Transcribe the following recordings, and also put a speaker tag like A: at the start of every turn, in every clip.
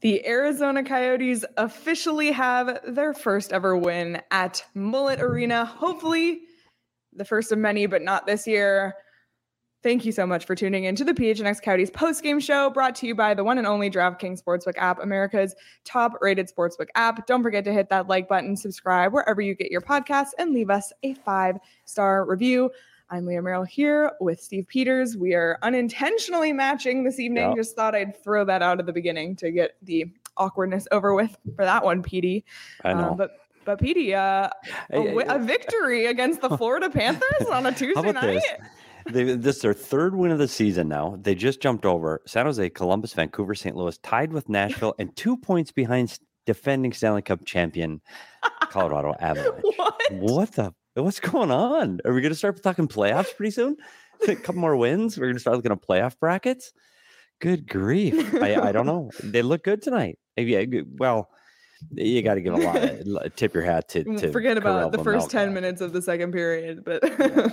A: The Arizona Coyotes officially have their first ever win at Mullet Arena. Hopefully the first of many, but not this year. Thank you so much for tuning in to the PHNX Coyotes post-game show, brought to you by the one and only DraftKings Sportsbook app, America's top-rated sportsbook app. Don't forget to hit that like button, subscribe wherever you get your podcasts, and leave us a 5-star review. I'm Leah Merrill here with Steve Peters. We are unintentionally matching this evening.
B: Yep.
A: Just thought I'd throw that out at the beginning to get the awkwardness over with for that one, Petey.
B: I know.
A: But Petey, a victory against the Florida Panthers on a Tuesday night.
B: This is their third win of the season now. They just jumped over San Jose, Columbus, Vancouver, St. Louis, tied with Nashville, and 2 points behind defending Stanley Cup champion Colorado Avalanche. What's going on? Are we going to start talking playoffs pretty soon? A couple more wins. We're going to start looking at playoff brackets. Good grief. I don't know. They look good tonight. Yeah, well, you got to give a lot. Tip your hat to
A: forget about the first
B: Vejmelka.
A: 10 minutes of the second period, but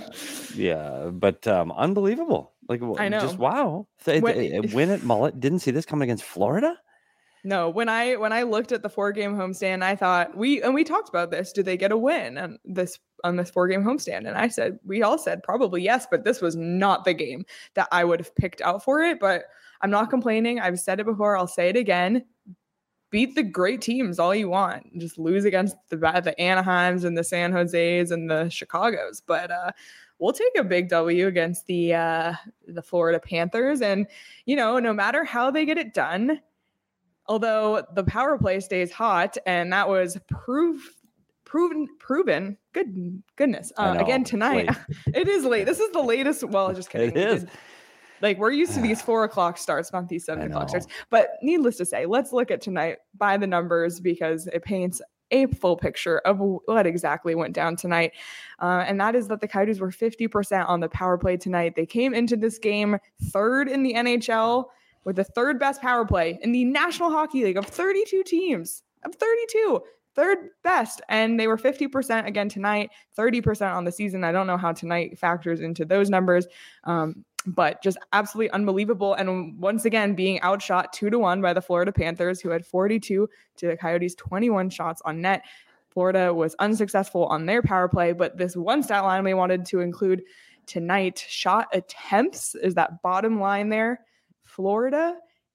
B: but unbelievable. Like,
A: I know.
B: Just wow. Win at Mullet. Didn't see this coming against Florida.
A: No, when I looked at the 4-game homestand, I thought we talked about this. Do they get a win on this 4-game homestand? And we all said probably yes, but this was not the game that I would have picked out for it. But I'm not complaining. I've said it before. I'll say it again. Beat the great teams all you want. Just lose against the Anaheims and the San Jose's and the Chicagos. But we'll take a big W against the Florida Panthers. And, no matter how they get it done, although the power play stays hot, and that was proven. Goodness. Again tonight. It is late. This is the latest. Well, just kidding.
B: It is.
A: We're used to these 4:00 starts, not these 7:00 starts. But needless to say, let's look at tonight by the numbers because it paints a full picture of what exactly went down tonight. And that is that the Coyotes were 50% on the power play tonight. They came into this game third in the NHL with the third best power play in the National Hockey League of 32 teams. Third best. And they were 50% again tonight, 30% on the season. I don't know how tonight factors into those numbers. But just absolutely unbelievable. And once again, being outshot 2-1 by the Florida Panthers, who had 42 to the Coyotes' 21 shots on net. Florida was unsuccessful on their power play, but this one stat line we wanted to include tonight, shot attempts is that bottom line there. Florida,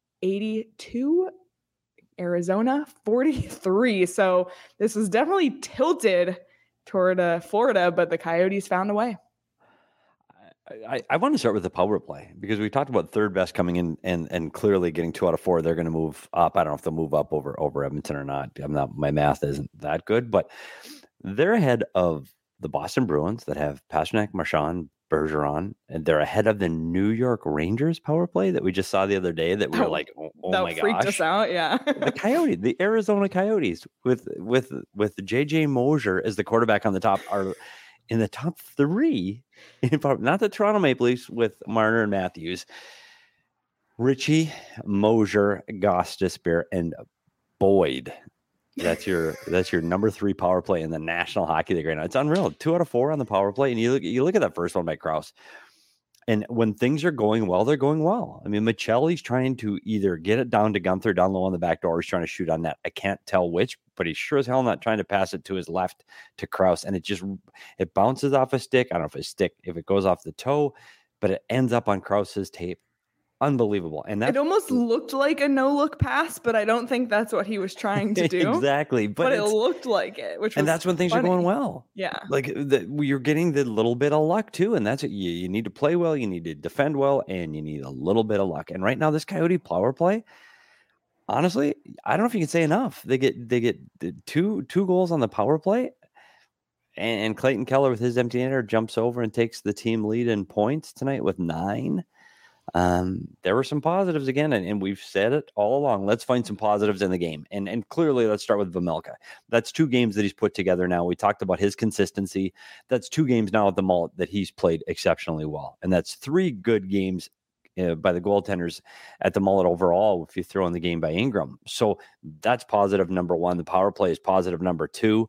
A: 82, Arizona, 43. So this was definitely tilted toward Florida, but the Coyotes found a way.
B: I want to start with the power play because we talked about third best coming in and clearly getting 2 out of 4. They're going to move up. I don't know if they'll move up over Edmonton or not. My math isn't that good, but they're ahead of the Boston Bruins that have Pastrnak, Marchand, Bergeron, and they're ahead of the New York Rangers power play that we just saw the other day that we were like, oh my gosh. That
A: freaked us out, yeah.
B: The Arizona Coyotes with JJ Moser as the quarterback on the top are in the top 3, not the Toronto Maple Leafs with Marner and Matthews, Ritchie, Moser, Gostisbehere, and Boyd. That's your number 3 power play in the National Hockey League right now. It's unreal. 2 out of 4 on the power play, and you look at that first one by Krause. And when things are going well, they're going well. I mean, Michelli's trying to either get it down to Gunther down low on the back door, or he's trying to shoot on net. I can't tell which, but he's sure as hell not trying to pass it to his left to Krause. And it bounces off a stick. I don't know if it goes off the toe, but it ends up on Krause's tape. Unbelievable. And that
A: it almost looked like a no-look pass, but I don't think that's what he was trying to do.
B: Exactly.
A: But it looked like it,
B: and that's when things are going well.
A: Yeah.
B: Like you're getting the little bit of luck too. And that's it. You need to play well, you need to defend well, and you need a little bit of luck. And right now, this Coyote power play, honestly, I don't know if you can say enough. They get the two goals on the power play. And Clayton Keller with his empty netter jumps over and takes the team lead in points tonight with 9. There were some positives again, and we've said it all along. Let's find some positives in the game. And clearly, let's start with Vejmelka. That's 2 games that he's put together now. We talked about his consistency. That's 2 games now at the Mullet that he's played exceptionally well. And that's 3 good games by the goaltenders at the Mullet overall, if you throw in the game by Ingram. So that's positive number 1. The power play is positive number 2.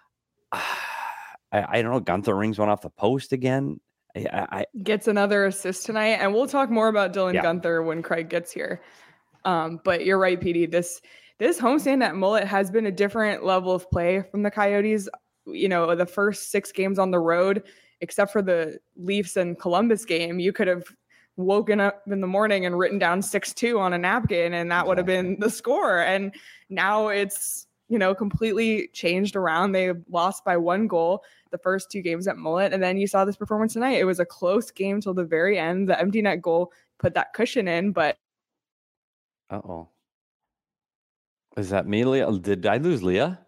B: I don't know. Gunther rings one off the post again.
A: Gets another assist tonight, and we'll talk more about Dylan Gunther when Craig gets here. But you're right, PD. This homestand at Mullet has been a different level of play from the Coyotes. The first 6 games on the road, except for the Leafs and Columbus game, you could have woken up in the morning and written down 6-2 on a napkin, and that would have been the score. And now it's, completely changed around. They lost by 1 goal the first 2 games at Mullet. And then you saw this performance tonight. It was a close game till the very end. The empty net goal put that cushion in, but.
B: Uh-oh. Is that me, Leah? Did I lose Leah?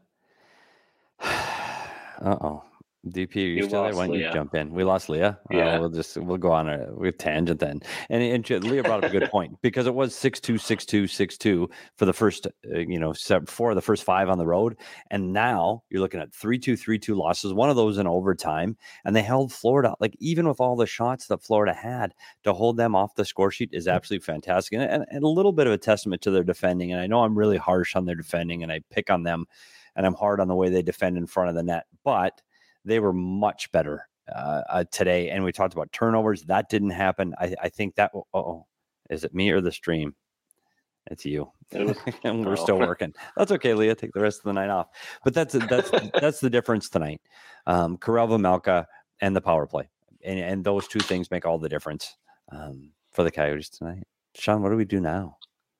B: Uh-oh. DP, are you still there? Why don't you jump in? We lost Leah.
C: Yeah.
B: We'll go on a tangent then. And Leah brought up a good point, because it was 6-2, 6-2, 6-2 for the first, 4 of the first 5 on the road. And now you're looking at 3-2, 3-2 losses, one of those in overtime. And they held Florida, like, even with all the shots that Florida had, to hold them off the score sheet is absolutely fantastic. And a little bit of a testament to their defending. And I know I'm really harsh on their defending, and I pick on them, and I'm hard on the way they defend in front of the net. But they were much better today. And we talked about turnovers. That didn't happen. I think that, is it me or the stream? It's you. And we're still working. That's okay, Leah. Take the rest of the night off. But that's the difference tonight. Karel Vejmelka and the power play. And those 2 things make all the difference for the Coyotes tonight. Sean, what do we do now?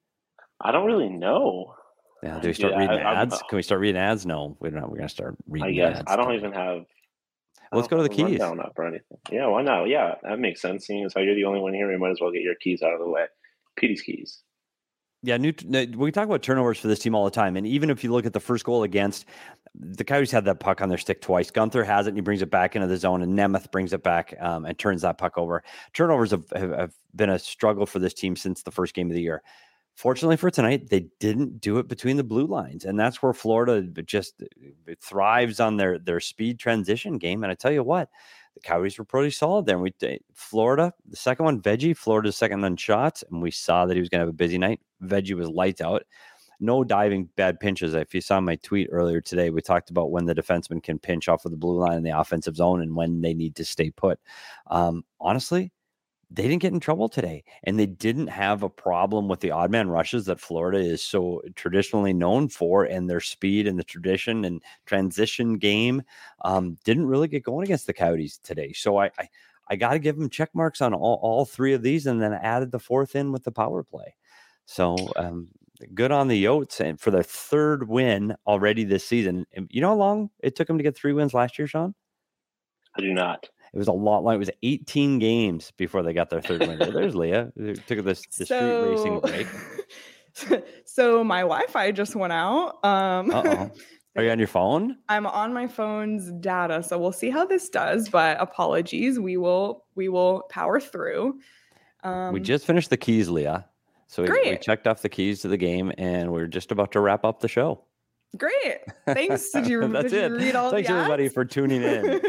C: I don't really know.
B: Yeah, do we start reading ads? Can we start reading ads? No, we're not. We're gonna start reading.
C: I guess
B: ads
C: I don't even have.
B: Let's go to the keys.
C: Up or anything. Yeah, why not? Yeah, that makes sense. Seeing as how you're the only one here, you might as well get your keys out of the way. Petey's keys.
B: Yeah, we talk about turnovers for this team all the time, and even if you look at the first goal against, the Coyotes had that puck on their stick twice. Gunther has it, and he brings it back into the zone, and Nemeth brings it back and turns that puck over. Turnovers have been a struggle for this team since the first game of the year. Fortunately for tonight, they didn't do it between the blue lines, and that's where Florida just thrives on their speed transition game. And I tell you what, the Coyotes were pretty solid there. Florida, the second one, Veggie, Florida's second on shots, and we saw that he was going to have a busy night. Veggie was lights out. No diving bad pinches. If you saw my tweet earlier today, we talked about when the defenseman can pinch off of the blue line in the offensive zone and when they need to stay put. Honestly, they didn't get in trouble today, and they didn't have a problem with the odd man rushes that Florida is so traditionally known for, and their speed and the tradition and transition game didn't really get going against the Coyotes today. So I got to give them check marks on all 3 of these, and then added the 4th in with the power play. So good on the Yotes, and for their 3rd win already this season. And you know how long it took them to get 3 wins last year, Sean?
C: I do not.
B: It was a lot long. It was 18 games before they got their 3rd win. There's Leah. They took the street racing break.
A: So my Wi-Fi just went out.
B: Uh-oh. Are you on your phone?
A: I'm on my phone's data, so we'll see how this does. But apologies. We will power through.
B: We just finished the keys, Leah. So we checked off the keys to the game, and we're just about to wrap up the show.
A: Great. Thanks. Did you read all
B: Thanks,
A: the
B: everybody,
A: ads?
B: for tuning in.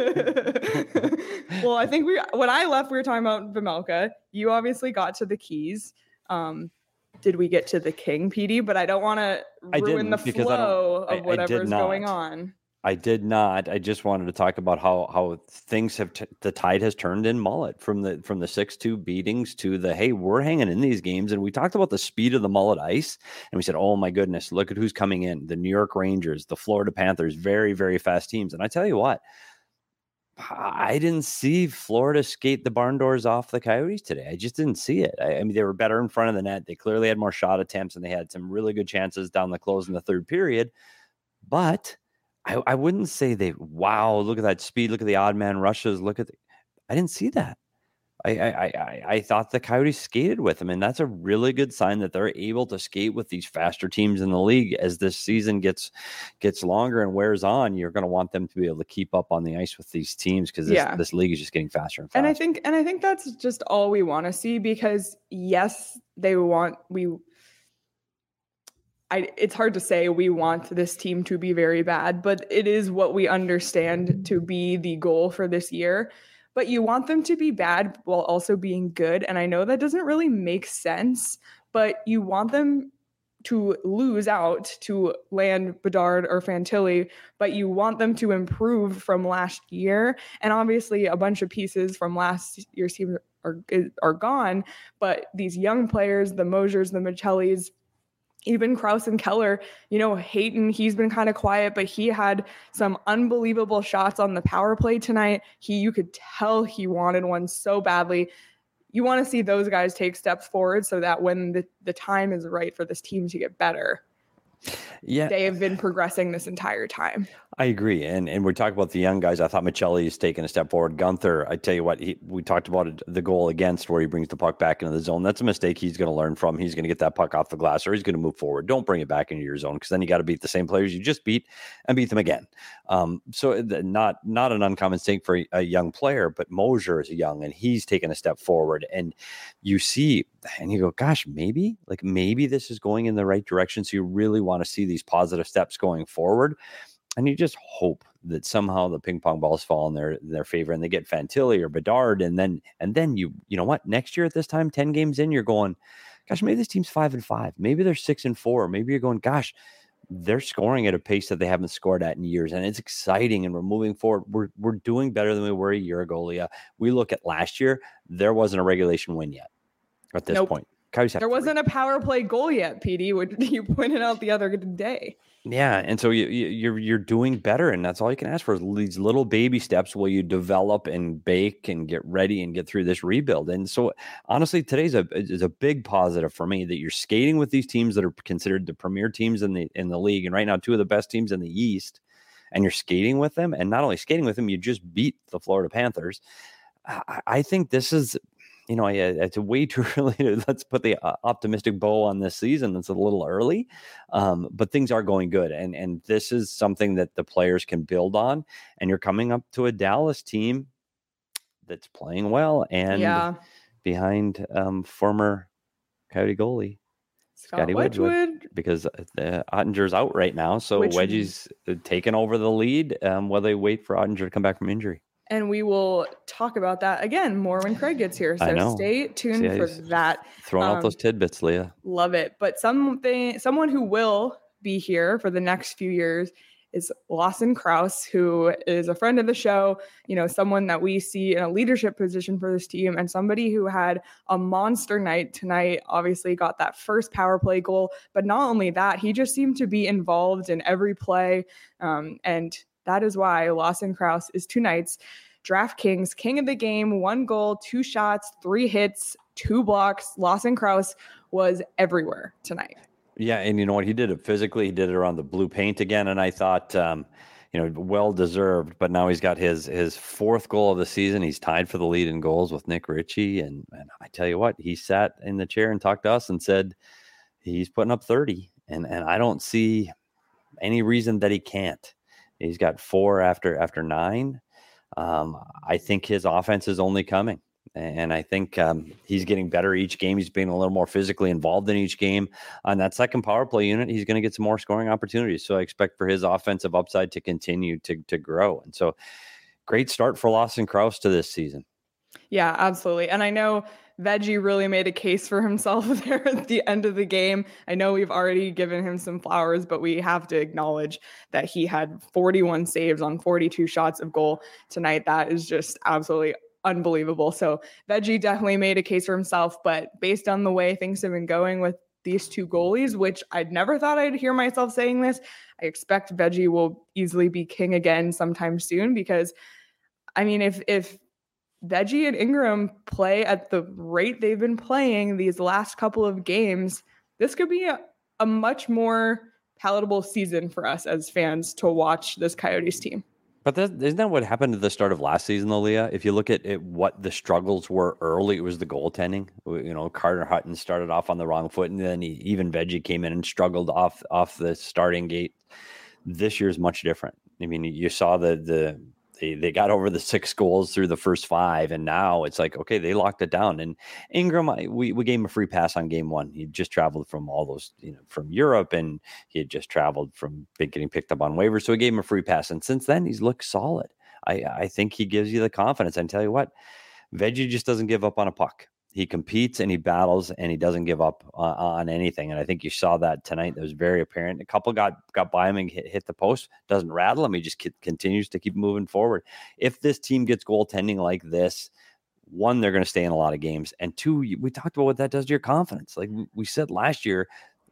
A: Well, I think when I left, we were talking about Vejmelka. You obviously got to the keys. Did we get to the king, PD? But I don't want to ruin the flow of whatever's going on.
B: I did not. I just wanted to talk about how things have the tide has turned in Mullet from the 6-2 beatings to the, hey, we're hanging in these games. And we talked about the speed of the Mullet ice, and we said, oh my goodness, look at who's coming in. The New York Rangers, the Florida Panthers, very, very fast teams. And I tell you what, I didn't see Florida skate the barn doors off the Coyotes today. I just didn't see it. I mean, they were better in front of the net. They clearly had more shot attempts, and they had some really good chances down the close in the 3rd period. But I wouldn't say wow, look at that speed. Look at the odd man rushes. I didn't see that. I thought the Coyotes skated with them, and that's a really good sign that they're able to skate with these faster teams in the league. As this season gets longer and wears on, you're going to want them to be able to keep up on the ice with these teams, because this league is just getting faster and faster.
A: And I think that's just all we want to see, because yes, it's hard to say we want this team to be very bad, but it is what we understand to be the goal for this year. But you want them to be bad while also being good. And I know that doesn't really make sense, but you want them to lose out to land Bedard or Fantilli, but you want them to improve from last year. And obviously a bunch of pieces from last year's team are gone, but these young players, the Mosiers, the Michellis, even Krause and Keller, Hayton, he's been kind of quiet, but he had some unbelievable shots on the power play tonight. You could tell he wanted one so badly. You want to see those guys take steps forward so that when the time is right for this team to get better, they have been progressing this entire time.
B: I agree. And we're talking about the young guys. I thought Michelli is taking a step forward. Gunther, I tell you what, we talked about it, the goal against where he brings the puck back into the zone. That's a mistake he's going to learn from. He's going to get that puck off the glass or he's going to move forward. Don't bring it back into your zone because then you got to beat the same players you just beat and beat them again. So not an uncommon mistake for a young player, but Mosier is young and he's taking a step forward. And you see, and you go, gosh, maybe this is going in the right direction. So you really want to see these positive steps going forward. And you just hope that somehow the ping pong balls fall in their favor and they get Fantilli or Bedard. And then you know what, next year at this time, 10 games in, you're going, gosh, maybe this team's 5-5. Maybe they're 6-4. Maybe you're going, gosh, they're scoring at a pace that they haven't scored at in years. And it's exciting and we're moving forward. We're doing better than we were a year ago, Leah. We look at last year, there wasn't a regulation win yet at this point.
A: There wasn't a power play goal yet, PD, which you pointed out the other day.
B: Yeah, and so you're doing better, and that's all you can ask for is these little baby steps while you develop and bake and get ready and get through this rebuild. And so, honestly, today's is a big positive for me that you're skating with these teams that are considered the premier teams in the league, and right now 2 of the best teams in the East, and you're skating with them, and not only skating with them, you just beat the Florida Panthers. I think this is. It's way too early to let's put the optimistic bow on this season. It's a little early, but things are going good. And this is something that the players can build on. And you're coming up to a Dallas team that's playing well and behind former Coyote goalie Scotty Wedgwood, because Ottinger's out right now. So Wedgie's taking over the lead while they wait for Ottinger to come back from injury.
A: And we will talk about that again more when Craig gets here. So stay tuned for that.
B: Throwing out those tidbits, Leah.
A: Love it. But someone who will be here for the next few years is Lawson Crouse, who is a friend of the show, someone that we see in a leadership position for this team and somebody who had a monster night tonight, obviously got that first power play goal. But not only that, he just seemed to be involved in every play. And that is why Lawson Crouse is tonight's DraftKings King of the Game. 1 goal, 2 shots, 3 hits, 2 blocks. Lawson Crouse was everywhere tonight.
B: Yeah, and you know what? He did it physically. He did it around the blue paint again, and I thought, well-deserved. But now he's got his 4th goal of the season. He's tied for the lead in goals with Nick Ritchie. And I tell you what, he sat in the chair and talked to us and said he's putting up 30. And I don't see any reason that he can't. He's got 4 after 9. I think his offense is only coming. And I think he's getting better each game. He's being a little more physically involved in each game. On that second power play unit, he's going to get some more scoring opportunities. So I expect for his offensive upside to continue to grow. And so great start for Lawson Crouse to this season.
A: Yeah, absolutely. And I know Veggie really made a case for himself there at the end of the game. I know we've already given him some flowers, but we have to acknowledge that he had 41 saves on 42 shots of goal tonight. That is just absolutely unbelievable. So Veggie definitely made a case for himself, but based on the way things have been going with these 2 goalies, which I'd never thought I'd hear myself saying this, I expect Veggie will easily be king again sometime soon because, I mean, if Veggie and Ingram play at the rate they've been playing these last couple of games, this could be a much more palatable season for us as fans to watch this Coyotes team.
B: But isn't that what happened at the start of last season, though, Leah? If you look at what the struggles were early, it was the goaltending. Carter Hutton started off on the wrong foot, and then even Veggie came in and struggled off the starting gate. This year's much different. I mean, you saw they got over the 6 goals through the first 5, and now it's like, okay, they locked it down. And Ingram, we gave him a free pass on game 1. He just traveled from all those, from Europe, and he had just traveled from getting picked up on waivers, so we gave him a free pass. And since then, he's looked solid. I think he gives you the confidence. And tell you what, Veggie just doesn't give up on a puck. He competes and he battles and he doesn't give up on anything. And I think you saw that tonight. That was very apparent. A couple got by him and hit the post. Doesn't rattle him. He just continues to keep moving forward. If this team gets goaltending like this, 1, they're going to stay in a lot of games. And 2, we talked about what that does to your confidence. Like we said last year,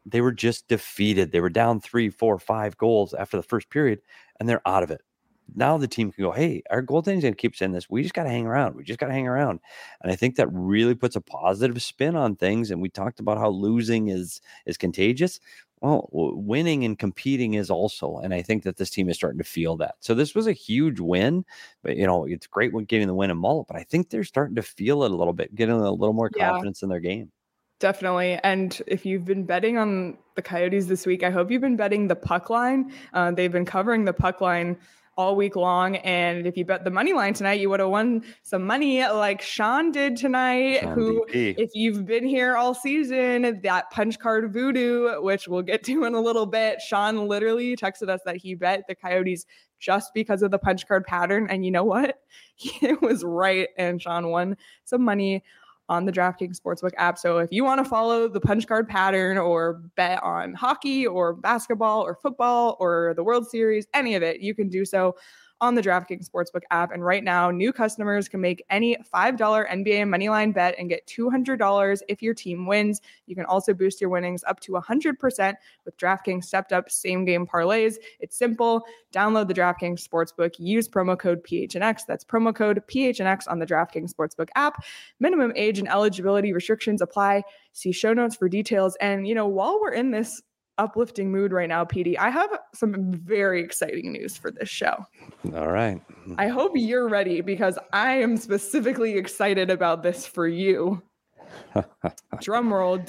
B: they were just defeated. They were down 3, 4, 5 goals after the first period, and they're out of it. Now the team can go, hey, our goaltending's going to keep saying this. We just got to hang around. And I think that really puts a positive spin on things. And we talked about how losing is contagious. Well, winning and competing is also. And I think that this team is starting to feel that. So this was a huge win. But, it's great when getting the win in Mullet. But I think they're starting to feel it a little bit, getting a little more confidence in their game.
A: Definitely. And if you've been betting on the Coyotes this week, I hope you've been betting the puck line. They've been covering the puck line all week long. And if you bet the money line tonight, you would have won some money like Sean did tonight, if you've been here all season, that punch card voodoo, which we'll get to in a little bit. Sean literally texted us that he bet the Coyotes just because of the punch card pattern. And you know what? It was right. And Sean won some money on the DraftKings Sportsbook app. So if you want to follow the punch card pattern or bet on hockey or basketball or football or the World Series, any of it, you can do so on the DraftKings Sportsbook app. And right now, new customers can make any $5 NBA moneyline bet and get $200 if your team wins. You can also boost your winnings up to 100% with DraftKings stepped up same game parlays. It's simple. Download the DraftKings Sportsbook. Use promo code PHNX. That's promo code PHNX on the DraftKings Sportsbook app. Minimum age and eligibility restrictions apply. See show notes for details. And, while we're in this uplifting mood right now, PD, I have some very exciting news for this show.
B: All right.
A: I hope you're ready because I am specifically excited about this for you. Drum roll.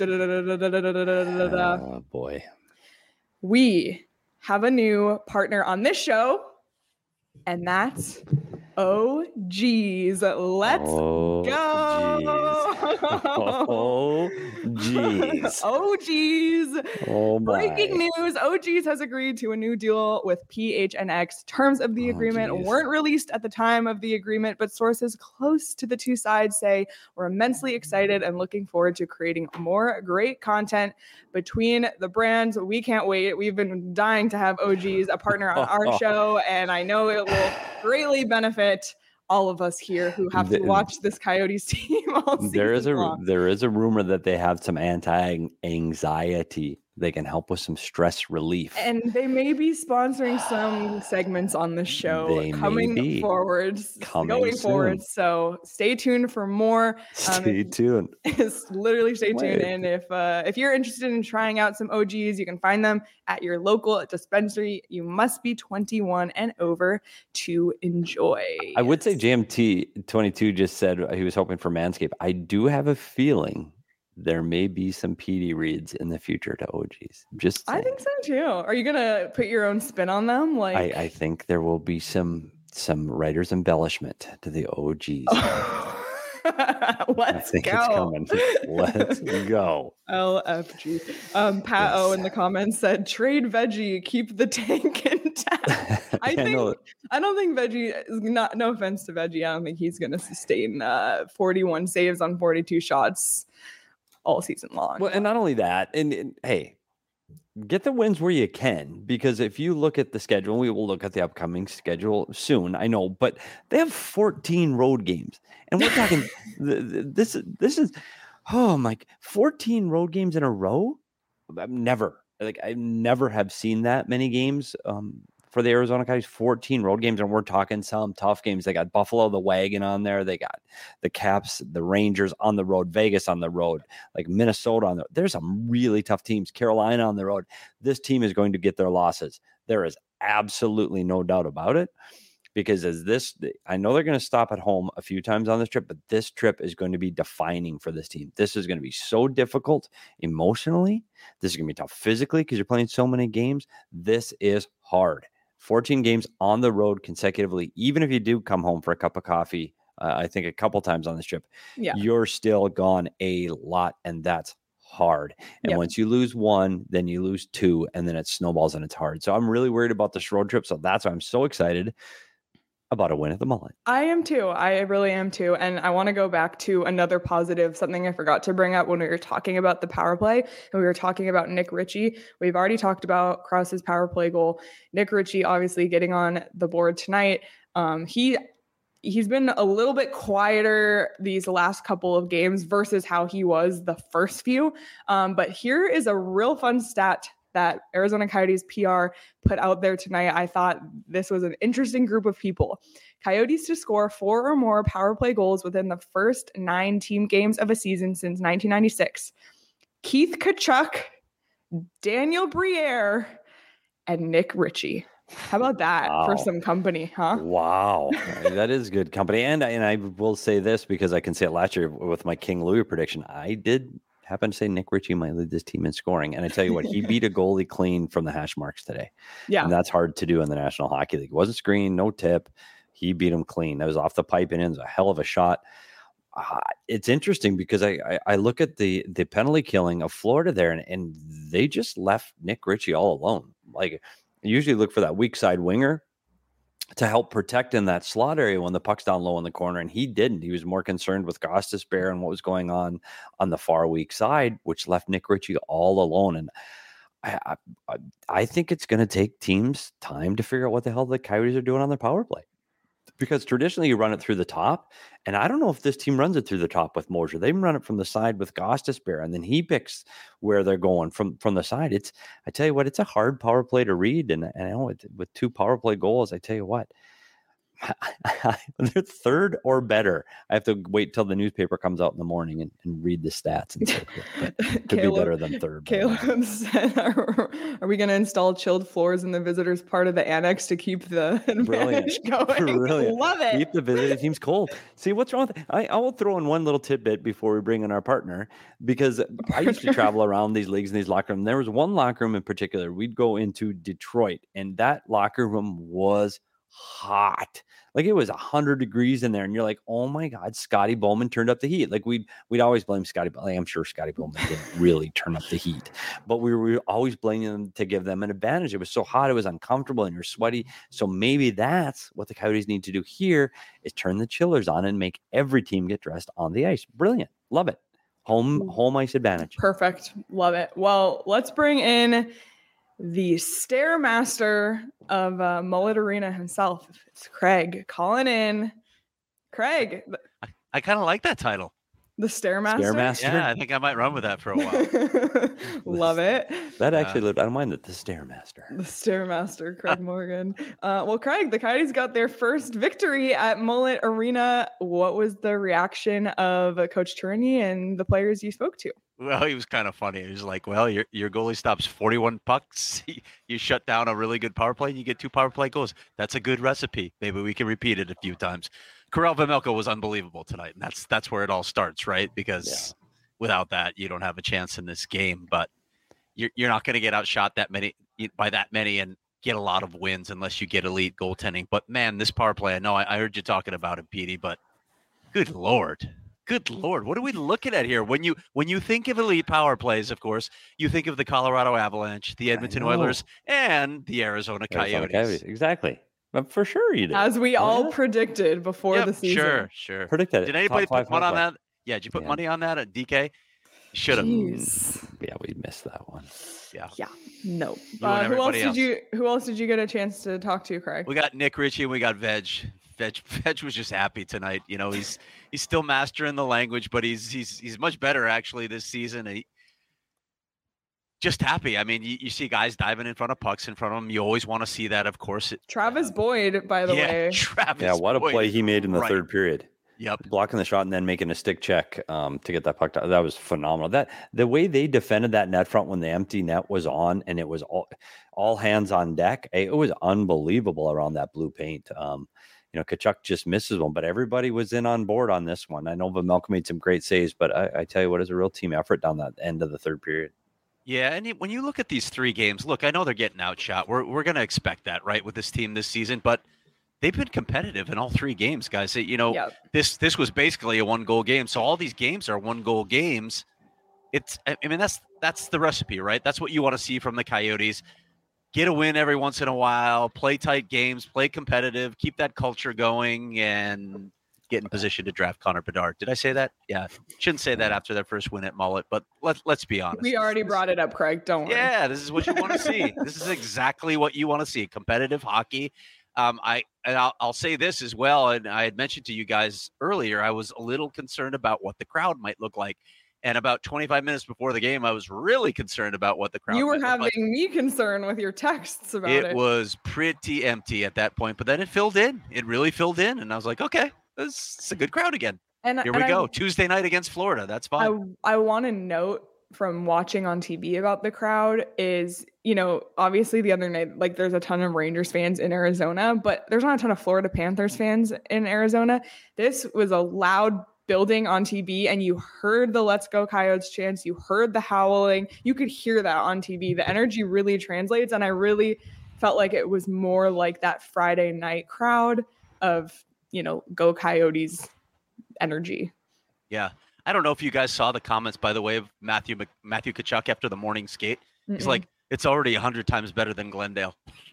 B: Oh, boy.
A: We have a new partner on this show, and that's OGs. Let's go.
B: Geez.
A: OGs.
B: Oh, my.
A: Breaking news. OGs has agreed to a new deal with PHNX. Terms of the agreement weren't released at the time of the agreement, but sources close to the two sides say we're immensely excited and looking forward to creating more great content between the brands. We can't wait. We've been dying to have OGs a partner on our show, and I know it will greatly benefit all of us here who have to watch this Coyotes team all season long.
B: There is a rumor that they have some anti-anxiety. They can help with some stress relief.
A: And they may be sponsoring some segments on the show going forward. So stay tuned for more.
B: Stay tuned.
A: Literally stay tuned. And if you're interested in trying out some OGs, you can find them at your local dispensary. You must be 21 and over to enjoy.
B: I would say JMT22 just said he was hoping for Manscaped. I do have a feeling there may be some PD reads in the future to OGs. Just saying.
A: I think so too. Are you gonna put your own spin on them?
B: I think there will be some writer's embellishment to the OGs.
A: Let's go.
B: It's coming. Let's go.
A: LFG. Pat O in the comments said, "Trade Veggie, keep the tank intact." I don't think Veggie is not. No offense to Veggie, I don't think he's gonna sustain 41 saves on 42 shots all season long.
B: Well, and not only that, and hey, get the wins where you can, because if you look at the schedule, we will look at the upcoming schedule soon, I know, but they have 14 road games, and we're talking this is 14 road games in a row. I never have seen that many games for the Arizona Coyotes. 14 road games, and we're talking some tough games. They got Buffalo, the Wagon on there. They got the Caps, the Rangers on the road, Vegas on the road, like Minnesota on the road. There's some really tough teams. Carolina on the road. This team is going to get their losses. There is absolutely no doubt about it, because I know they're going to stop at home a few times on this trip, but this trip is going to be defining for this team. This is going to be so difficult emotionally. This is going to be tough physically because you're playing so many games. This is hard. 14 games on the road consecutively, even if you do come home for a cup of coffee, I think a couple times on this trip, you're still gone a lot, and that's hard. And once you lose one, then you lose two, and then it snowballs and it's hard. So I'm really worried about this road trip. So that's why I'm so excited about a win at the Mullet.
A: I am too. I really am too. And I want to go back to another positive, something I forgot to bring up when we were talking about the power play, and we were talking about Nick Ritchie. We've already talked about Krause's power play goal. Nick Ritchie obviously getting on the board tonight. He he's been a little bit quieter these last couple of games versus how he was the first few. But here is a real fun stat that Arizona Coyotes PR put out there tonight. I thought this was an interesting group of people. Coyotes to score 4 or more power play goals within the first 9 team games of a season since 1996. Keith Tkachuk, Daniel Briere, and Nick Ritchie. How about that for some company, huh?
B: Wow. That is good company. And I will say this because I can say it last year with my King Louis prediction. I did happen to say Nick Ritchie might lead this team in scoring. And I tell you what, he beat a goalie clean from the hash marks today.
A: Yeah.
B: And that's hard to do in the National Hockey League. It wasn't screen, no tip. He beat him clean. That was off the pipe and in. It was a hell of a shot. It's interesting because I look at the penalty killing of Florida there, and they just left Nick Ritchie all alone. Like, I usually look for that weak side winger to help protect in that slot area when the puck's down low in the corner, and he didn't. He was more concerned with Gostisbehere and what was going on the far weak side, which left Nick Ritchie all alone. And I think it's going to take teams time to figure out what the hell the Coyotes are doing on their power play. Because traditionally you run it through the top, and I don't know if this team runs it through the top with Mosier. They run it from the side with Gostisbehere, and then he picks where they're going from the side. I tell you what, it's a hard power play to read, and I know with 2 power play goals, I tell you what, they're third or better. I have to wait till the newspaper comes out in the morning and read the stats and so forth. But it could be better than third.
A: Caleb said, are we going to install chilled floors in the visitors part of the annex to keep the advantage going?
B: Brilliant.
A: Love it.
B: Keep the visiting teams cold. See, what's wrong with I will throw in one little tidbit before we bring in our partner, because I used to travel around these leagues and these locker rooms. There was one locker room in particular. We'd go into Detroit, and that locker room was hot. Like, it was 100 degrees in there, and you're like, oh my God, Scotty Bowman turned up the heat. Like, we'd always blame Scotty Bowman. I'm sure Scotty Bowman didn't really turn up the heat, but we were always blaming them to give them an advantage. It was so hot, it was uncomfortable, and you're sweaty. So maybe that's what the Coyotes need to do here, is turn the chillers on and make every team get dressed on the ice. Brilliant. Love it. Home ice advantage.
A: Perfect. Love it. Well, let's bring in the Stairmaster of Mullet Arena himself. It's Craig calling in. Craig.
D: I kind of like that title.
A: The Stairmaster?
B: Stairmaster?
D: Yeah, I think I might run with that for a while.
A: Love it.
B: That actually, I don't mind that. The Stairmaster.
A: The Stairmaster, Craig Morgan. Well, Craig, the Coyotes got their first victory at Mullet Arena. What was the reaction of Coach Tourigny and the players you spoke to?
D: Well, he was kind of funny. He was like, well, your goalie stops 41 pucks. You shut down a really good power play and you get 2 power play goals. That's a good recipe. Maybe we can repeat it a few times. Karel Vejmelka was unbelievable tonight. And that's where it all starts, right? Because without that, you don't have a chance in this game. But you're not going to get outshot by that many and get a lot of wins unless you get elite goaltending. But man, this power play, I know I heard you talking about it, Petey, but good Lord. Good Lord, what are we looking at here? When you think of elite power plays, of course, you think of the Colorado Avalanche, the Edmonton Oilers, and the Arizona Coyotes.
B: Exactly. But for sure you did.
A: As we all predicted before the season.
D: Sure.
B: Predicted it.
D: Did anybody put money on that? Yeah, did you put money on that at DK? Should have.
B: Yeah, we missed that one.
D: Yeah.
A: No. Who else did you get a chance to talk to, Craig?
D: We got Nick Ritchie and we got Veg. Veg was just happy tonight. You know, he's still mastering the language, but he's much better actually this season. He just happy. I mean, you see guys diving in front of pucks in front of him. You always want to see that, of course.
A: Travis Boyd, by the way.
D: Travis.
B: Yeah, what a play he made in the third period.
D: Yep.
B: Blocking the shot and then making a stick check to get that puck down. That was phenomenal. That the way they defended that net front when the empty net was on and it was all hands on deck. It was unbelievable around that blue paint. Tkachuk just misses one, but everybody was in on board on this one. I know Vejmelka made some great saves, but I tell you what, it's a real team effort down that end of the third period.
D: Yeah, and when you look at these 3 games, look, I know they're getting outshot. We're going to expect that, right, with this team this season, but they've been competitive in all 3 games, guys. This was basically a 1-goal game, so all these games are 1-goal games. That's the recipe, right? That's what you want to see from the Coyotes. Get a win every once in a while, play tight games, play competitive, keep that culture going, and get in position to draft Connor Bedard. Did I say that? Yeah. Shouldn't say that after their first win at Mullet, but let's be honest.
A: We already brought it up, Craig. Don't worry.
D: Yeah, this is what you want to see. This is exactly what you want to see. Competitive hockey. I'll say this as well. And I had mentioned to you guys earlier, I was a little concerned about what the crowd might look like. And about 25 minutes before the game, I was really concerned about what the crowd.
A: You were
D: might look like.
A: having me concerned with your texts about it.
D: It was pretty empty at that point, but then it filled in. It really filled in, and I was like, okay, this is a good crowd again.
A: And
D: here we go. Tuesday night against Florida. That's fine.
A: I want to note from watching on TV about the crowd is, obviously the other night, like there's a ton of Rangers fans in Arizona, but there's not a ton of Florida Panthers fans in Arizona. This was a loud building on TV, and you heard the Let's Go Coyotes chants, you heard the howling, you could hear that on TV. The energy really translates, and I really felt like it was more like that Friday night crowd of, Go Coyotes energy.
D: Yeah. I don't know if you guys saw the comments, by the way, of Matthew Tkachuk after the morning skate. He's like, it's already 100 times better than Glendale.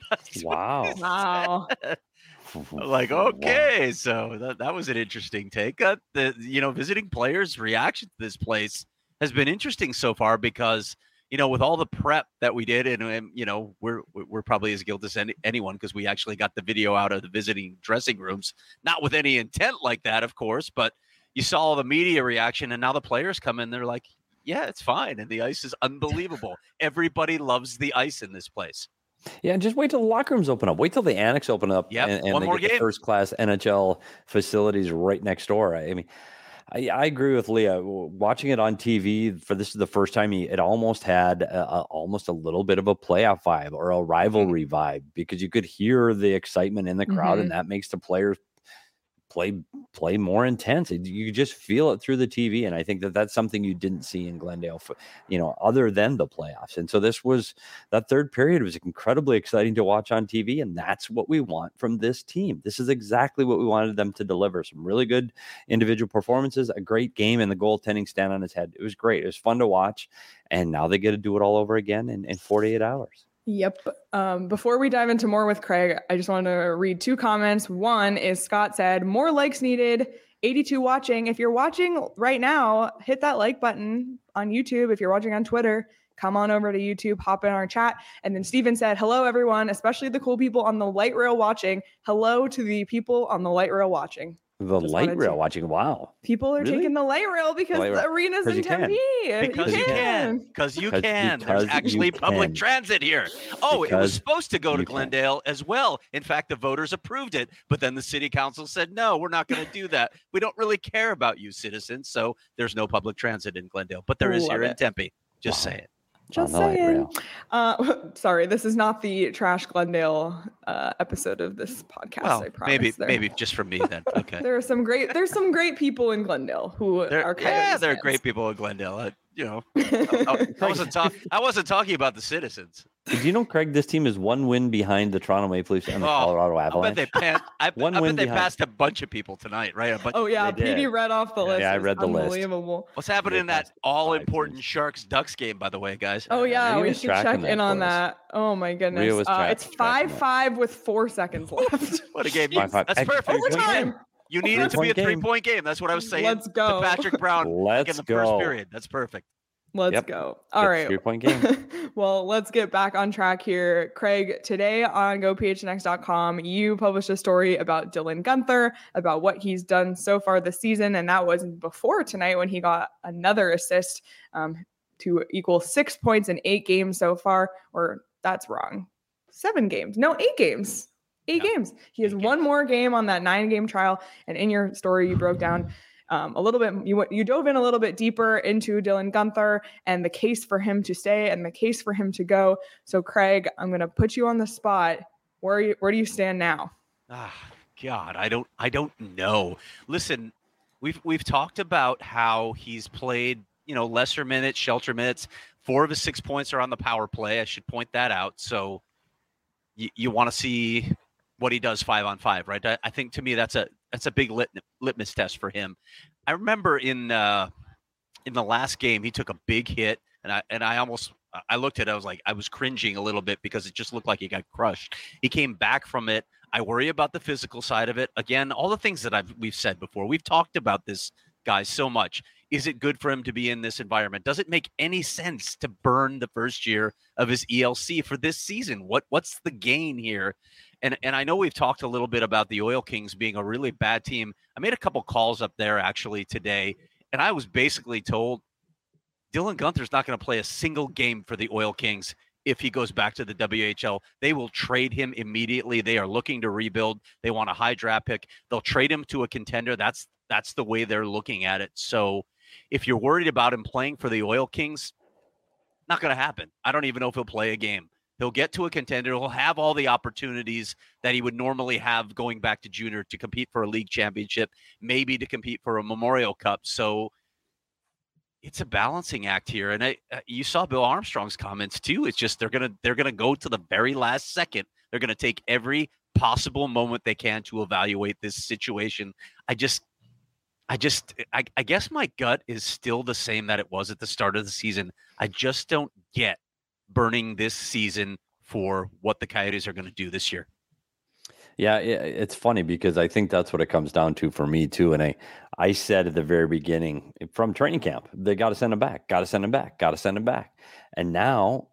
A: Wow.
D: Like, okay, so that was an interesting take. Visiting players' reaction to this place has been interesting so far because, with all the prep that we did, and we're probably as guilty as anyone because we actually got the video out of the visiting dressing rooms, not with any intent like that, of course, but you saw all the media reaction, and now the players come in, they're like, yeah, it's fine, and the ice is unbelievable. Everybody loves the ice in this place.
B: Yeah, and just wait till the locker rooms open up. Wait till the annex open up, and they get the first-class NHL facilities right next door. I mean, I agree with Leah. Watching it on TV this is the first time it almost had almost a little bit of a playoff vibe or a rivalry vibe because you could hear the excitement in the crowd, and that makes the players play more intense. You just feel it through the TV, and I think that's something you didn't see in Glendale, other than the playoffs. And so that third period was incredibly exciting to watch on TV, and that's what we want from this team. This is exactly what we wanted them to deliver. Some really good individual performances, a great game, and the goaltending stand on its head. It was great. It was fun to watch, and now they get to do it all over again in 48 hours.
A: Yep. Before we dive into more with Craig, I just want to read 2 comments. One is Scott said, more likes needed, 82 watching. If you're watching right now, hit that like button on YouTube. If you're watching on Twitter, come on over to YouTube, hop in our chat. And then Steven said, hello, everyone, especially the cool people on the light rail watching. Hello to the people on the light rail watching.
B: The light rail watching. Wow.
A: People are taking the light rail because the arena's in Tempe.
D: Because you can. There's actually public transit here. It was supposed to go to Glendale as well. In fact, the voters approved it, but then the city council said, no, we're not going to do that. We don't really care about you citizens. So there's no public transit in Glendale, but there is here in Tempe. Just say it.
A: Just saying. Sorry, this is not the Trash Glendale episode of this podcast.
D: Well,
A: I promise.
D: Maybe just for me then. Okay.
A: There's some great people in Glendale who are Coyotes fans.
D: There are great people in Glendale. I wasn't talking about the citizens.
B: Do you know, Craig, this team is 1 win behind the Toronto Maple Leafs and the Colorado Avalanche?
D: I bet they passed a bunch of people tonight, right?
A: Petey read off the list.
B: Yeah, I read the list.
A: Unbelievable.
D: What's happening in that all-important Sharks-Ducks game, by the way, guys?
A: Oh, yeah, we should check in on that. Oh, my goodness. It's 5-5 with 4 seconds left.
D: What a game. That's perfect.
A: Overtime.
D: You need it to be a 3-point game. That's what I was saying.
A: Let's go.
D: To Patrick Brown in the first period. That's perfect.
A: Let's go. All right.
B: 3-point game.
A: Well, let's get back on track here. Craig, today on GoPHNX.com, you published a story about Dylan Guenther, about what he's done so far this season. And that was before tonight when he got another assist to equal 6 points in 8 games so far. Or that's wrong. 7 games. No, 8 games. 8 games. He has 1 more game on that 9-game trial. And in your story, you broke down a little bit, you dove in a little bit deeper into Dylan Guenther and the case for him to stay and the case for him to go. So, Craig, I'm going to put you on the spot. Where do you stand now?
D: God, I don't know. Listen, we've talked about how he's played, lesser minutes, shelter minutes. 4 of his 6 points are on the power play. I should point that out. So you want to see what he does 5-on-5, right? I think to me that's a big litmus test for him. I remember in the last game he took a big hit, and I looked at it. I was cringing a little bit because it just looked like he got crushed. He came back from it. I worry about the physical side of it. Again, all the things that we've said before. We've talked about this, guys, so much. Is it good for him to be in this environment? Does it make any sense to burn the first year of his ELC for this season? What's the gain here? And I know we've talked a little bit about the Oil Kings being a really bad team. I made a couple calls up there actually today, and I was basically told Dylan Guenther's not going to play a single game for the Oil Kings if he goes back to the WHL. They will trade him immediately. They are looking to rebuild. They want a high draft pick. They'll trade him to a contender. That's the way they're looking at it. So if you're worried about him playing for the Oil Kings, not going to happen. I don't even know if he'll play a game. He'll get to a contender. He'll have all the opportunities that he would normally have going back to junior to compete for a league championship, maybe to compete for a Memorial Cup. So it's a balancing act here. And you saw Bill Armstrong's comments too. It's just they're gonna go to the very last second. They're gonna take every possible moment they can to evaluate this situation. I guess my gut is still the same that it was at the start of the season. I just don't get burning this season for what the Coyotes are going to do this year.
B: Yeah, it's funny because I think that's what it comes down to for me too. And I said at the very beginning from training camp, they got to send him back, got to send him back, got to send him back. And now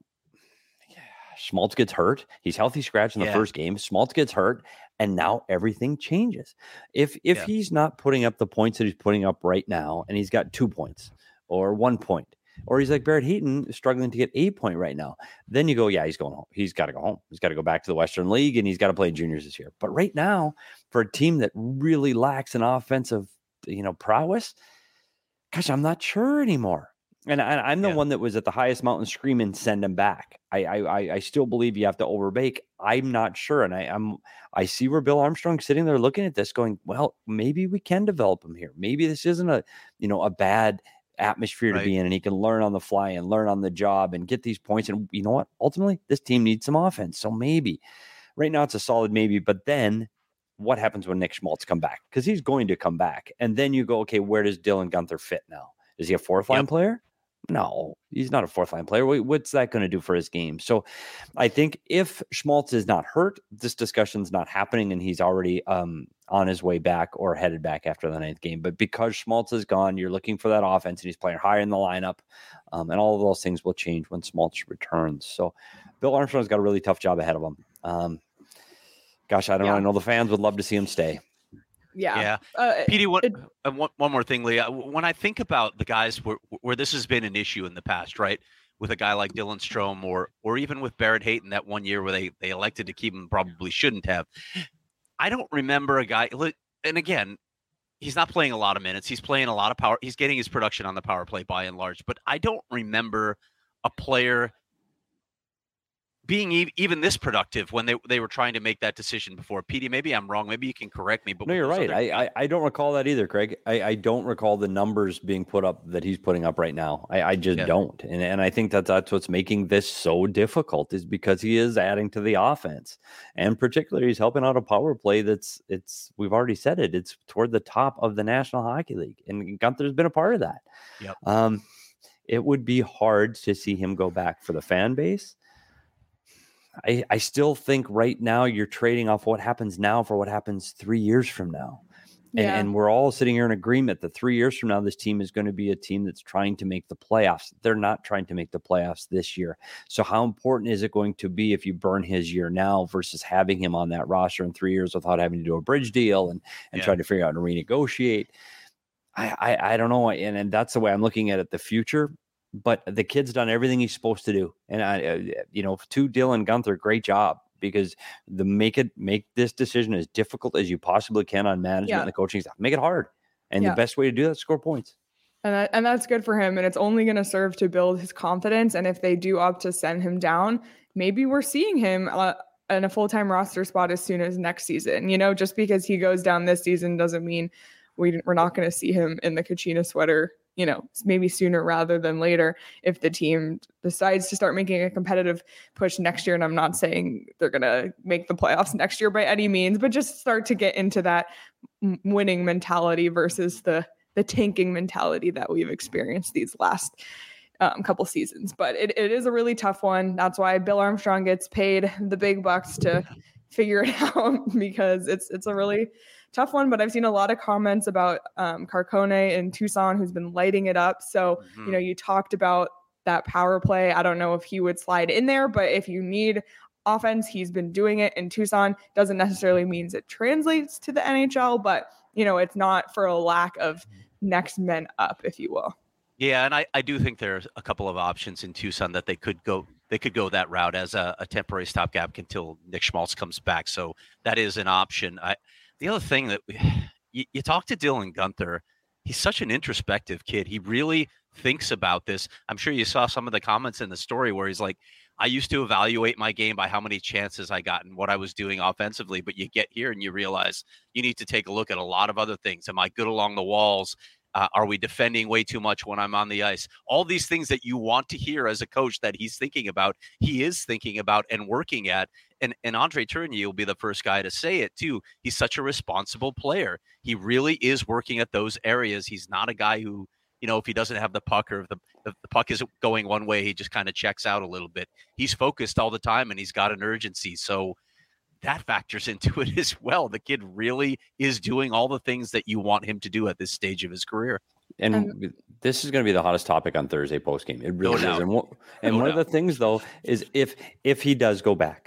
B: Schmaltz gets hurt. He's healthy scratch in the first game. Schmaltz gets hurt. And now everything changes. If he's not putting up the points that he's putting up right now, and he's got 2 points or 1 point, or he's like Barrett Hayton struggling to get 8 point right now, then you go, yeah, he's going home. He's got to go home. He's got to go back to the Western League, and he's got to play juniors this year. But right now, for a team that really lacks an offensive, prowess, gosh, I'm not sure anymore. And I'm the one that was at the highest mountain screaming, send him back. I still believe you have to overbake. I'm not sure. And I see where Bill Armstrong's sitting there looking at this going, well, maybe we can develop him here. Maybe this isn't a bad atmosphere to be in, and he can learn on the fly and learn on the job and get these points. And you know what? Ultimately, this team needs some offense. So maybe right now it's a solid maybe, but then what happens when Nick Schmaltz come back? Because he's going to come back. And then you go, okay, where does Dylan Guenther fit now? Is he a fourth line player? No, he's not a fourth line player. What's that going to do for his game? So I think if Schmaltz is not hurt, this discussion's not happening, and he's already on his way back or headed back after the 9th game. But because Schmaltz is gone, you're looking for that offense, and he's playing higher in the lineup, and all of those things will change when Schmaltz returns. So Bill Armstrong's got a really tough job ahead of him. Gosh, I don't know. I know the fans would love to see him stay.
A: Yeah.
D: Petey, one more thing, Leah. When I think about the guys where this has been an issue in the past, right, with a guy like Dylan Strome or even with Barrett Hayton that one year where they elected to keep him, probably shouldn't have. I don't remember a guy, and again, he's not playing a lot of minutes. He's playing a lot of power. He's getting his production on the power play by and large, but I don't remember a player being even this productive when they were trying to make that decision before. Petey, maybe I'm wrong. Maybe you can correct me. But
B: no, you're right. I don't recall that either, Craig. I don't recall the numbers being put up that he's putting up right now. I just don't. And I think that's what's making this so difficult, is because he is adding to the offense. And particularly he's helping out a power play we've already said it, it's toward the top of the National Hockey League. And Guenther's been a part of that.
D: Yep.
B: It would be hard to see him go back for the fan base. I still think right now you're trading off what happens now for what happens 3 years from now. And we're all sitting here in agreement that 3 years from now, this team is going to be a team that's trying to make the playoffs. They're not trying to make the playoffs this year. So how important is it going to be if you burn his year now versus having him on that roster in 3 years without having to do a bridge deal and try to figure out and renegotiate? I don't know. And that's the way I'm looking at it, the future. But the kid's done everything he's supposed to do. And to Dylan Guenther, great job, because make this decision as difficult as you possibly can on management and the coaching staff. Make it hard. And the best way to do that is score points.
A: And that's good for him. And it's only going to serve to build his confidence. And if they do opt to send him down, maybe we're seeing him in a full-time roster spot as soon as next season. Just because he goes down this season doesn't mean we're not going to see him in the Kachina sweater, maybe sooner rather than later if the team decides to start making a competitive push next year. And I'm not saying they're going to make the playoffs next year by any means, but just start to get into that winning mentality versus the tanking mentality that we've experienced these last couple seasons. But it is a really tough one. That's why Bill Armstrong gets paid the big bucks to figure it out, because it's a really tough one. But I've seen a lot of comments about Carcone in Tucson, who's been lighting it up. So, you talked about that power play. I don't know if he would slide in there, but if you need offense. He's been doing it in Tucson. Doesn't necessarily means it translates to the NHL, but it's not for a lack of next men up, if you will.
D: Yeah, and I do think there's a couple of options in Tucson that they could go that route as a temporary stopgap until Nick Schmaltz comes back. So that is an option. The other thing that you talk to Dylan Guenther, he's such an introspective kid. He really thinks about this. I'm sure you saw some of the comments in the story where he's like, I used to evaluate my game by how many chances I got and what I was doing offensively. But you get here and you realize you need to take a look at a lot of other things. Am I good along the walls? Are we defending way too much when I'm on the ice? All these things that you want to hear as a coach that he's thinking about, he is thinking about and working at. And Andre Tourigny will be the first guy to say it too. He's such a responsible player. He really is working at those areas. He's not a guy who, if he doesn't have the puck or if the puck isn't going one way, he just kind of checks out a little bit. He's focused all the time and he's got an urgency. So that factors into it as well. The kid really is doing all the things that you want him to do at this stage of his career.
B: And this is going to be the hottest topic on Thursday postgame. It really is. And one of the things, though, is if he does go back,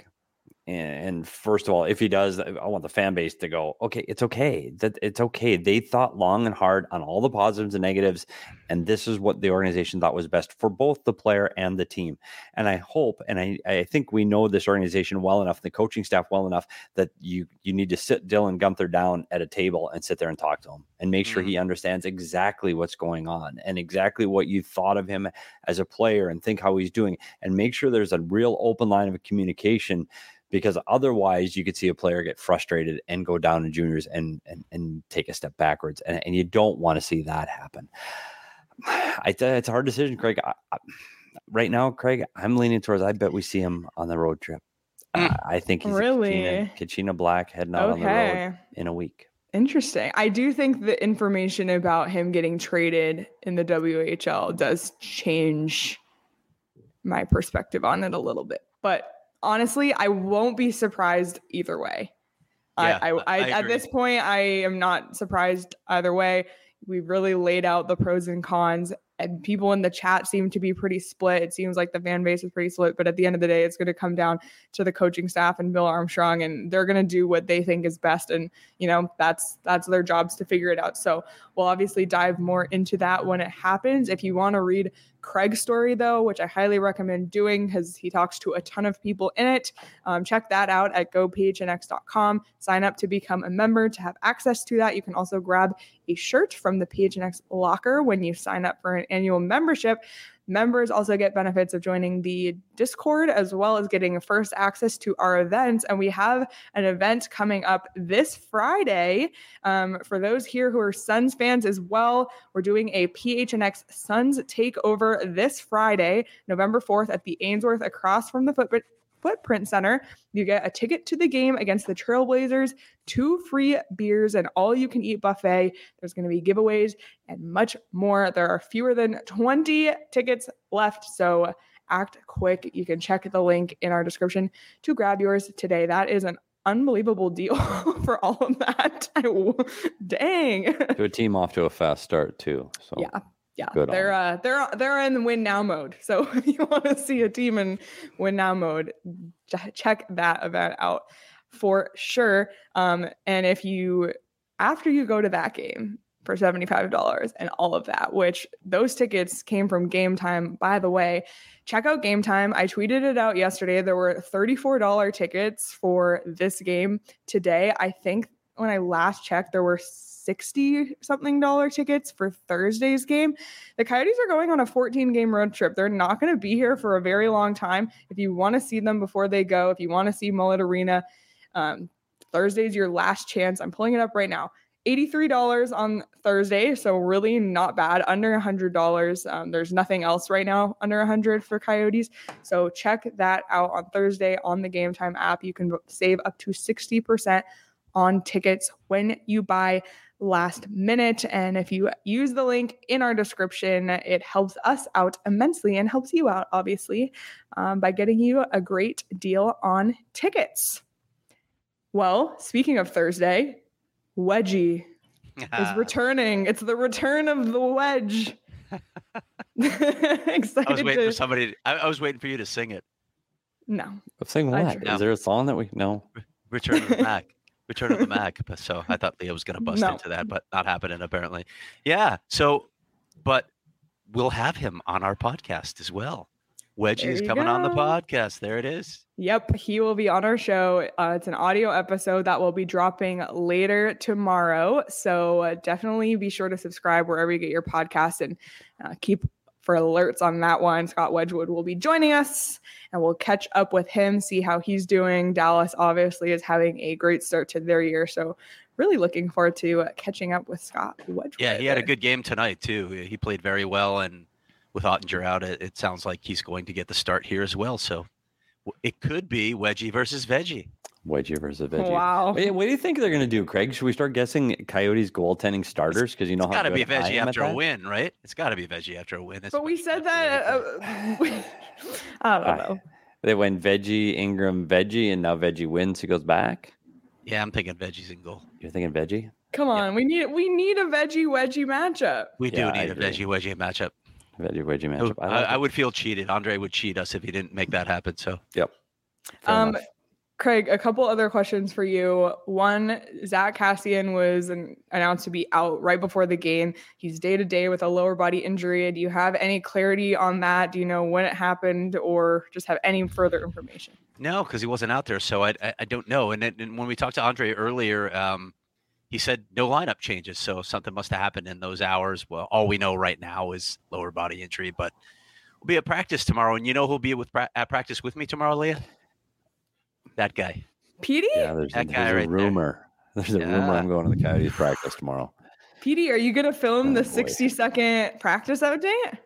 B: and first of all, if he does, I want the fan base to go, okay, it's okay. It's okay. They thought long and hard on all the positives and negatives, and this is what the organization thought was best for both the player and the team. And I hope, and I think we know this organization well enough, the coaching staff well enough, that you need to sit Dylan Guenther down at a table and sit there and talk to him and make sure he understands exactly what's going on and exactly what you thought of him as a player and think how he's doing, and make sure there's a real open line of communication. Because otherwise you could see a player get frustrated and go down in juniors and take a step backwards. And you don't want to see that happen. It's a hard decision, Craig. Right now, Craig, I'm leaning towards, I bet we see him on the road trip. I think he's
A: really
B: Kachina Black heading out on the road in a week.
A: Interesting. I do think the information about him getting traded in the WHL does change my perspective on it a little bit. But honestly, I won't be surprised either way.
D: Yeah,
A: I at this point, I am not surprised either way. We really laid out the pros and cons, and people in the chat seem to be pretty split. It seems like the fan base is pretty split, but at the end of the day, it's going to come down to the coaching staff and Bill Armstrong, and they're going to do what they think is best. And, that's their jobs to figure it out. So we'll obviously dive more into that when it happens. If you want to read Craig's story, though, which I highly recommend doing because he talks to a ton of people in it, check that out at gophnx.com. Sign up to become a member to have access to that. You can also grab a shirt from the PHNX locker when you sign up for an annual membership. Members also get benefits of joining the Discord as well as getting first access to our events. And we have an event coming up this Friday. For those here who are Suns fans as well, we're doing a PHNX Suns takeover this Friday, November 4th at the Ainsworth across from the Footprint Center. You get a ticket to the game against the Trailblazers, 2 free beers, and all-you-can-eat buffet. There's going to be giveaways and much more. There are fewer than 20 tickets left, so act quick. You can check the link in our description to grab yours today. That is an unbelievable deal for all of that. Dang.
B: To a team off to a fast start, too. So.
A: Yeah, they're in win now mode. So if you want to see a team in win now mode, check that event out for sure. And if after you go to that game for $75 and all of that, which those tickets came from Game Time, by the way, check out Game Time. I tweeted it out yesterday. There were $34 tickets for this game today. I think when I last checked, there were $60-something tickets for Thursday's game. The Coyotes are going on a 14-game road trip. They're not going to be here for a very long time. If you want to see them before they go, if you want to see Mullet Arena, Thursday's your last chance. I'm pulling it up right now. $83 on Thursday, so really not bad. Under $100. There's nothing else right now under $100 for Coyotes. So check that out on Thursday on the Game Time app. You can save up to 60% on tickets when you buy last minute. And if you use the link in our description, it helps us out immensely and helps you out, obviously, by getting you a great deal on tickets. Well, speaking of Thursday, Wedgie is returning. It's the return of the wedge. Excited.
D: I was waiting for somebody. I was waiting for you to sing it.
A: No.
B: I'm saying
A: I
B: what?
A: try.
B: Is there a song that we know?
D: Return of the Mac. Return of the Mac. But so I thought Leah was going to bust
A: No.
D: into that, but not happening apparently. Yeah. So, but we'll have him on our podcast as well. Wedgie
A: There
D: is
A: you
D: coming on the
A: go.
D: podcast. There it is.
A: Yep, he will be on our show. It's an audio episode that will be dropping later tomorrow. So definitely be sure to subscribe wherever you get your podcast and keep for alerts on that one. Scott Wedgwood will be joining us and we'll catch up with him, see how he's doing. Dallas obviously is having a great start to their year. So really looking forward to catching up with Scott Wedgwood.
D: Yeah, he had a good game tonight too. He played very well, and with Ottinger out, it sounds like he's going to get the start here as well. So it could be Wedgie versus Veggie.
B: Wedgie versus Veggie.
A: Wow.
B: Wait, what do you think they're going to do, Craig? Should we start guessing Coyotes goaltending starters? Because you know
D: It's
B: how
D: got to be
B: good I
D: Veggie
B: am at
D: after a
B: that?
D: win, right? It's got to be Veggie after a win.
A: But we said that. I don't know.
B: They went Veggie, Ingram, Veggie, and now Veggie wins. He goes back.
D: Yeah, I'm thinking Veggie's in goal.
B: You're thinking Veggie?
A: Come on, we need a veggie wedgie matchup.
D: We do
B: Yeah, I
D: need a
B: agree.
D: Veggie Wedgie matchup.
B: Veggie Wedgie matchup.
D: I would feel cheated. Andre would cheat us if he didn't make that happen. So
B: Yep. Fair enough.
A: Craig, a couple other questions for you. One, Zach Cassian was announced to be out right before the game. He's day-to-day with a lower body injury. Do you have any clarity on that? Do you know when it happened or just have any further information?
D: no, because he wasn't out there, so I don't know. And when we talked to Andre earlier, he said no lineup changes, so something must have happened in those hours. Well, all we know right now is lower body injury, but we'll be at practice tomorrow. And you know who'll be at practice with me tomorrow, Leah? That guy.
A: Petey?
B: Yeah, there's
D: That guy
B: a
D: right there.
B: rumor. There's a rumor I'm going to the Coyotes practice tomorrow.
A: Petey, are you going to film the
B: boy.
A: 60-second practice update?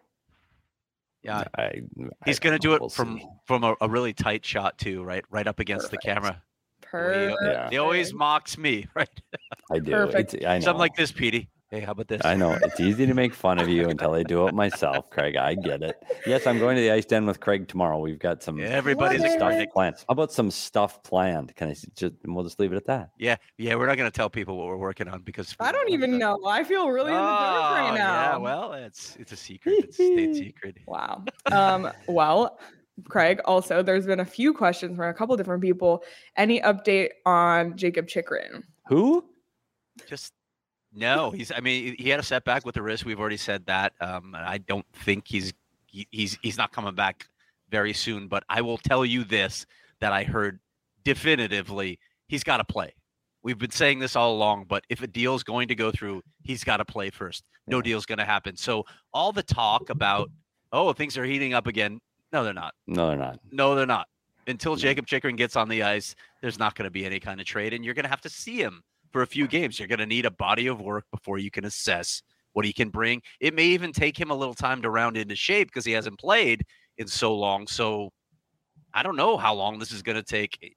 D: Yeah,
B: I
D: he's going to
B: don't
D: do
B: know.
D: it
B: We'll
D: from
B: see.
D: a really tight shot too, right up against
A: Perfect.
D: the camera.
A: Perfect.
B: Yeah.
D: He always mocks me, right?
B: I do.
A: Perfect.
B: I know.
D: Something like this, Petey. Hey, how about this?
B: I know. It's easy to make fun of you until I do it myself, Craig. I get it. Yes, I'm going to the Ice Den with Craig tomorrow. We've got some
D: Everybody's
A: What?
B: stuff
D: excited.
B: planned. How about some stuff planned? Can I just? We'll just leave it at that.
D: Yeah, we're not going to tell people what we're working on because
A: I don't even know. I feel really in the dark right now.
D: Yeah, well, it's a secret. It's a state secret.
A: Wow. Well, Craig, also, there's been a few questions from a couple different people. Any update on Jacob Chikrin?
B: Who?
D: Just no. I mean, he had a setback with the wrist. We've already said that. I don't think he's not coming back very soon. But I will tell you this: that I heard definitively, he's got to play. We've been saying this all along, but if a deal's going to go through, he's got to play first. No deal's going to happen. So all the talk about, oh, things are heating up again. No, they're not.
B: No, they're not.
D: No, they're not. Until Jacob Chikrin gets on the ice, there's not going to be any kind of trade, and you're going to have to see him for a few games. You're going to need a body of work before you can assess what he can bring. It may even take him a little time to round into shape because he hasn't played in so long. So I don't know how long this is going to take.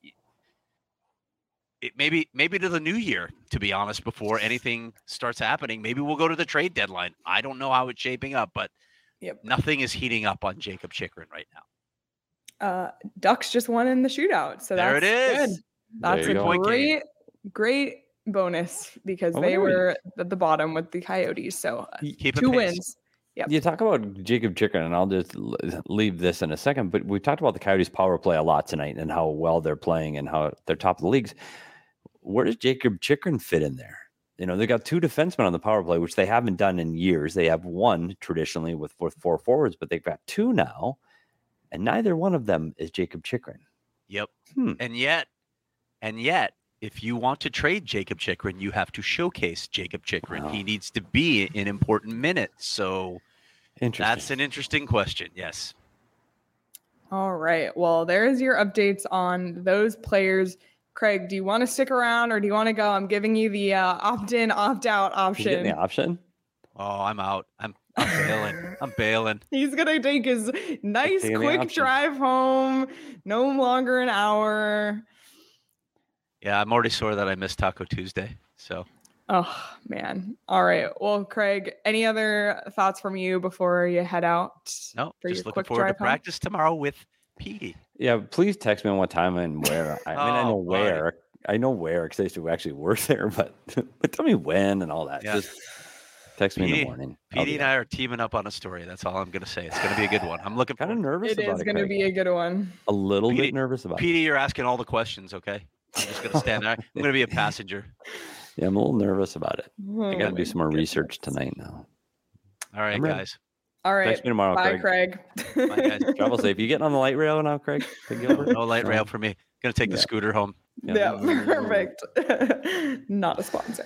D: It maybe to the new year, to be honest, before anything starts happening. Maybe we'll go to the trade deadline. I don't know how it's shaping up, but nothing is heating up on Jacob Chikrin right now.
A: Ducks just won in the shootout. So
D: There
A: that's
D: it is.
A: good. That's
B: There you
A: a
B: go.
A: great bonus because
B: Oh,
A: they
B: wait.
A: were at the bottom with the Coyotes. So
D: Keep it
A: 2
D: pace.
A: wins. Yep.
B: You talk about Jacob Chikrin, and I'll just leave this in a second, but we talked about the Coyotes power play a lot tonight and how well they're playing and how they're top of the leagues. Where does Jacob Chikrin fit in there? You know, they got 2 defensemen on the power play, which they haven't done in years. They have one traditionally with 4 forwards, but they've got 2 now, and neither one of them is Jacob Chikrin.
D: Yep. And yet, if you want to trade Jacob Chikrin, you have to showcase Jacob Chikrin.
B: Wow.
D: He needs to be in important minutes. So
B: Interesting.
D: that's an interesting question. Yes.
A: All right. Well, there's your updates on those players. Craig, do you want to stick around or do you want to go? I'm giving you the opt-in, opt-out
B: You getting
A: option.
B: the option?
D: Oh, I'm out. I'm bailing. I'm bailing.
A: He's going to take his nice,
B: taking the
A: quick
B: option.
A: drive home. No longer an hour.
D: Yeah, I'm already sore that I missed Taco Tuesday. So
A: Oh, man. All right. Well, Craig, any other thoughts from you before you head out?
D: no,
A: for
D: just
A: your
D: looking
A: quick
D: forward to
A: drive home?
D: practice tomorrow with Petey.
B: Yeah, please text me on what time and where. I mean, I know
D: Oh, buddy.
B: where. I know where because I used to actually work there, but tell me when and all that.
D: Yeah.
B: Just Text me in the morning.
D: PD and I are teaming up on a story. That's all I'm going to say. It's going to be a good one. I'm looking
B: kind of nervous
A: It
B: about
A: is
B: it.
A: going to be a good one.
B: A little
D: PD
B: bit nervous about it.
D: PD, you're asking all the questions, okay? I'm just going to stand there. I'm going to be a passenger.
B: Yeah, I'm a little nervous about it. I got to
A: Oh
B: do some more
A: my
B: research
A: goodness.
B: tonight now.
D: All right,
B: I'm ready.
D: guys.
A: All right.
B: Text me tomorrow,
A: Bye,
B: Craig.
A: Craig.
D: Bye, guys.
B: Travel safe. You getting on the light rail now, Craig? To Gilbert?
D: No light rail for me. Going to take the scooter home.
A: Yeah, perfect. Not a sponsor.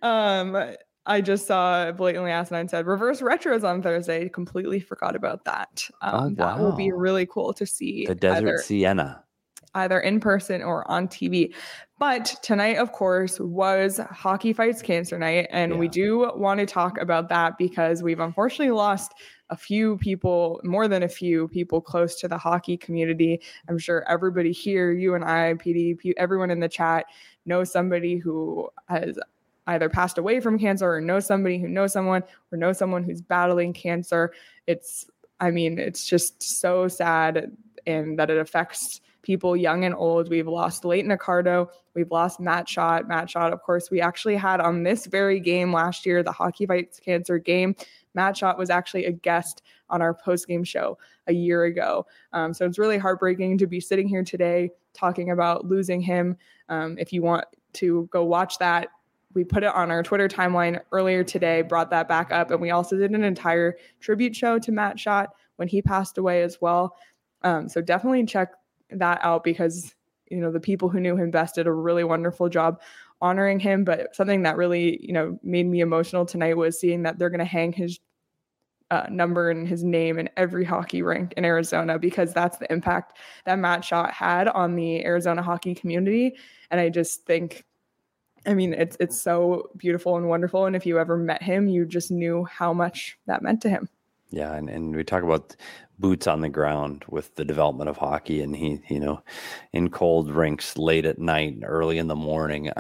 A: I just saw Blatantly Asinine said reverse retros on Thursday. Completely forgot about that. That will be
B: wow.
A: really cool to see.
B: The Desert Sienna.
A: Either in person or on TV. But tonight, of course, was Hockey Fights Cancer Night. And we do want to talk about that because we've unfortunately lost a few people, more than a few people close to the hockey community. I'm sure everybody here, you and I, PD, everyone in the chat knows somebody who has either passed away from cancer or knows somebody who knows someone or knows someone who's battling cancer. It's just so sad and that it affects people young and old. We've lost Leighton Accardo. We've lost Matt Schott. Matt Schott, of course, we actually had on this very game last year, the Hockey Fights Cancer game. Matt Schott was actually a guest on our post-game show a year ago. So it's really heartbreaking to be sitting here today talking about losing him. If you want to go watch that, we put it on our Twitter timeline earlier today, brought that back up. And we also did an entire tribute show to Matt Schott when he passed away as well. So definitely check that out because, the people who knew him best did a really wonderful job honoring him. But something that really, made me emotional tonight was seeing that they're going to hang his number and his name in every hockey rink in Arizona because that's the impact that Matt Schott had on the Arizona hockey community. And I just think, it's so beautiful and wonderful. And if you ever met him, you just knew how much that meant to him.
B: Yeah, and we talk about boots on the ground with the development of hockey, and he, in cold rinks late at night, early in the morning.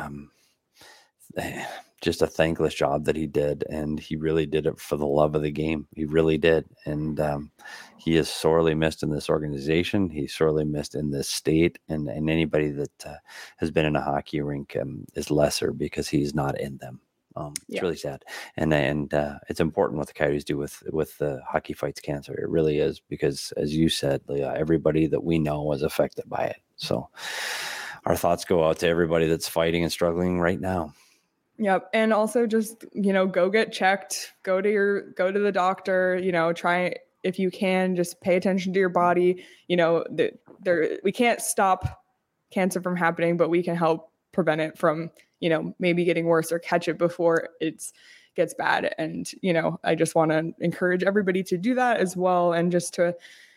B: Just a thankless job that he did, and he really did it for the love of the game. He really did, and he is sorely missed in this organization. He's sorely missed in this state, and anybody that has been in a hockey rink is lesser because he's not in them. It's really sad, and it's important what the Coyotes do with the Hockey Fights Cancer. It really is because, as you said, Leah, everybody that we know was affected by it. So our thoughts go out to everybody that's fighting and struggling right now.
A: Yep. And also just, go get checked, go to the doctor, try, if you can, just pay attention to your body. We can't stop cancer from happening, but we can help prevent it from, maybe getting worse or catch it before it gets bad. And, I just want to encourage everybody to do that as well. And just to,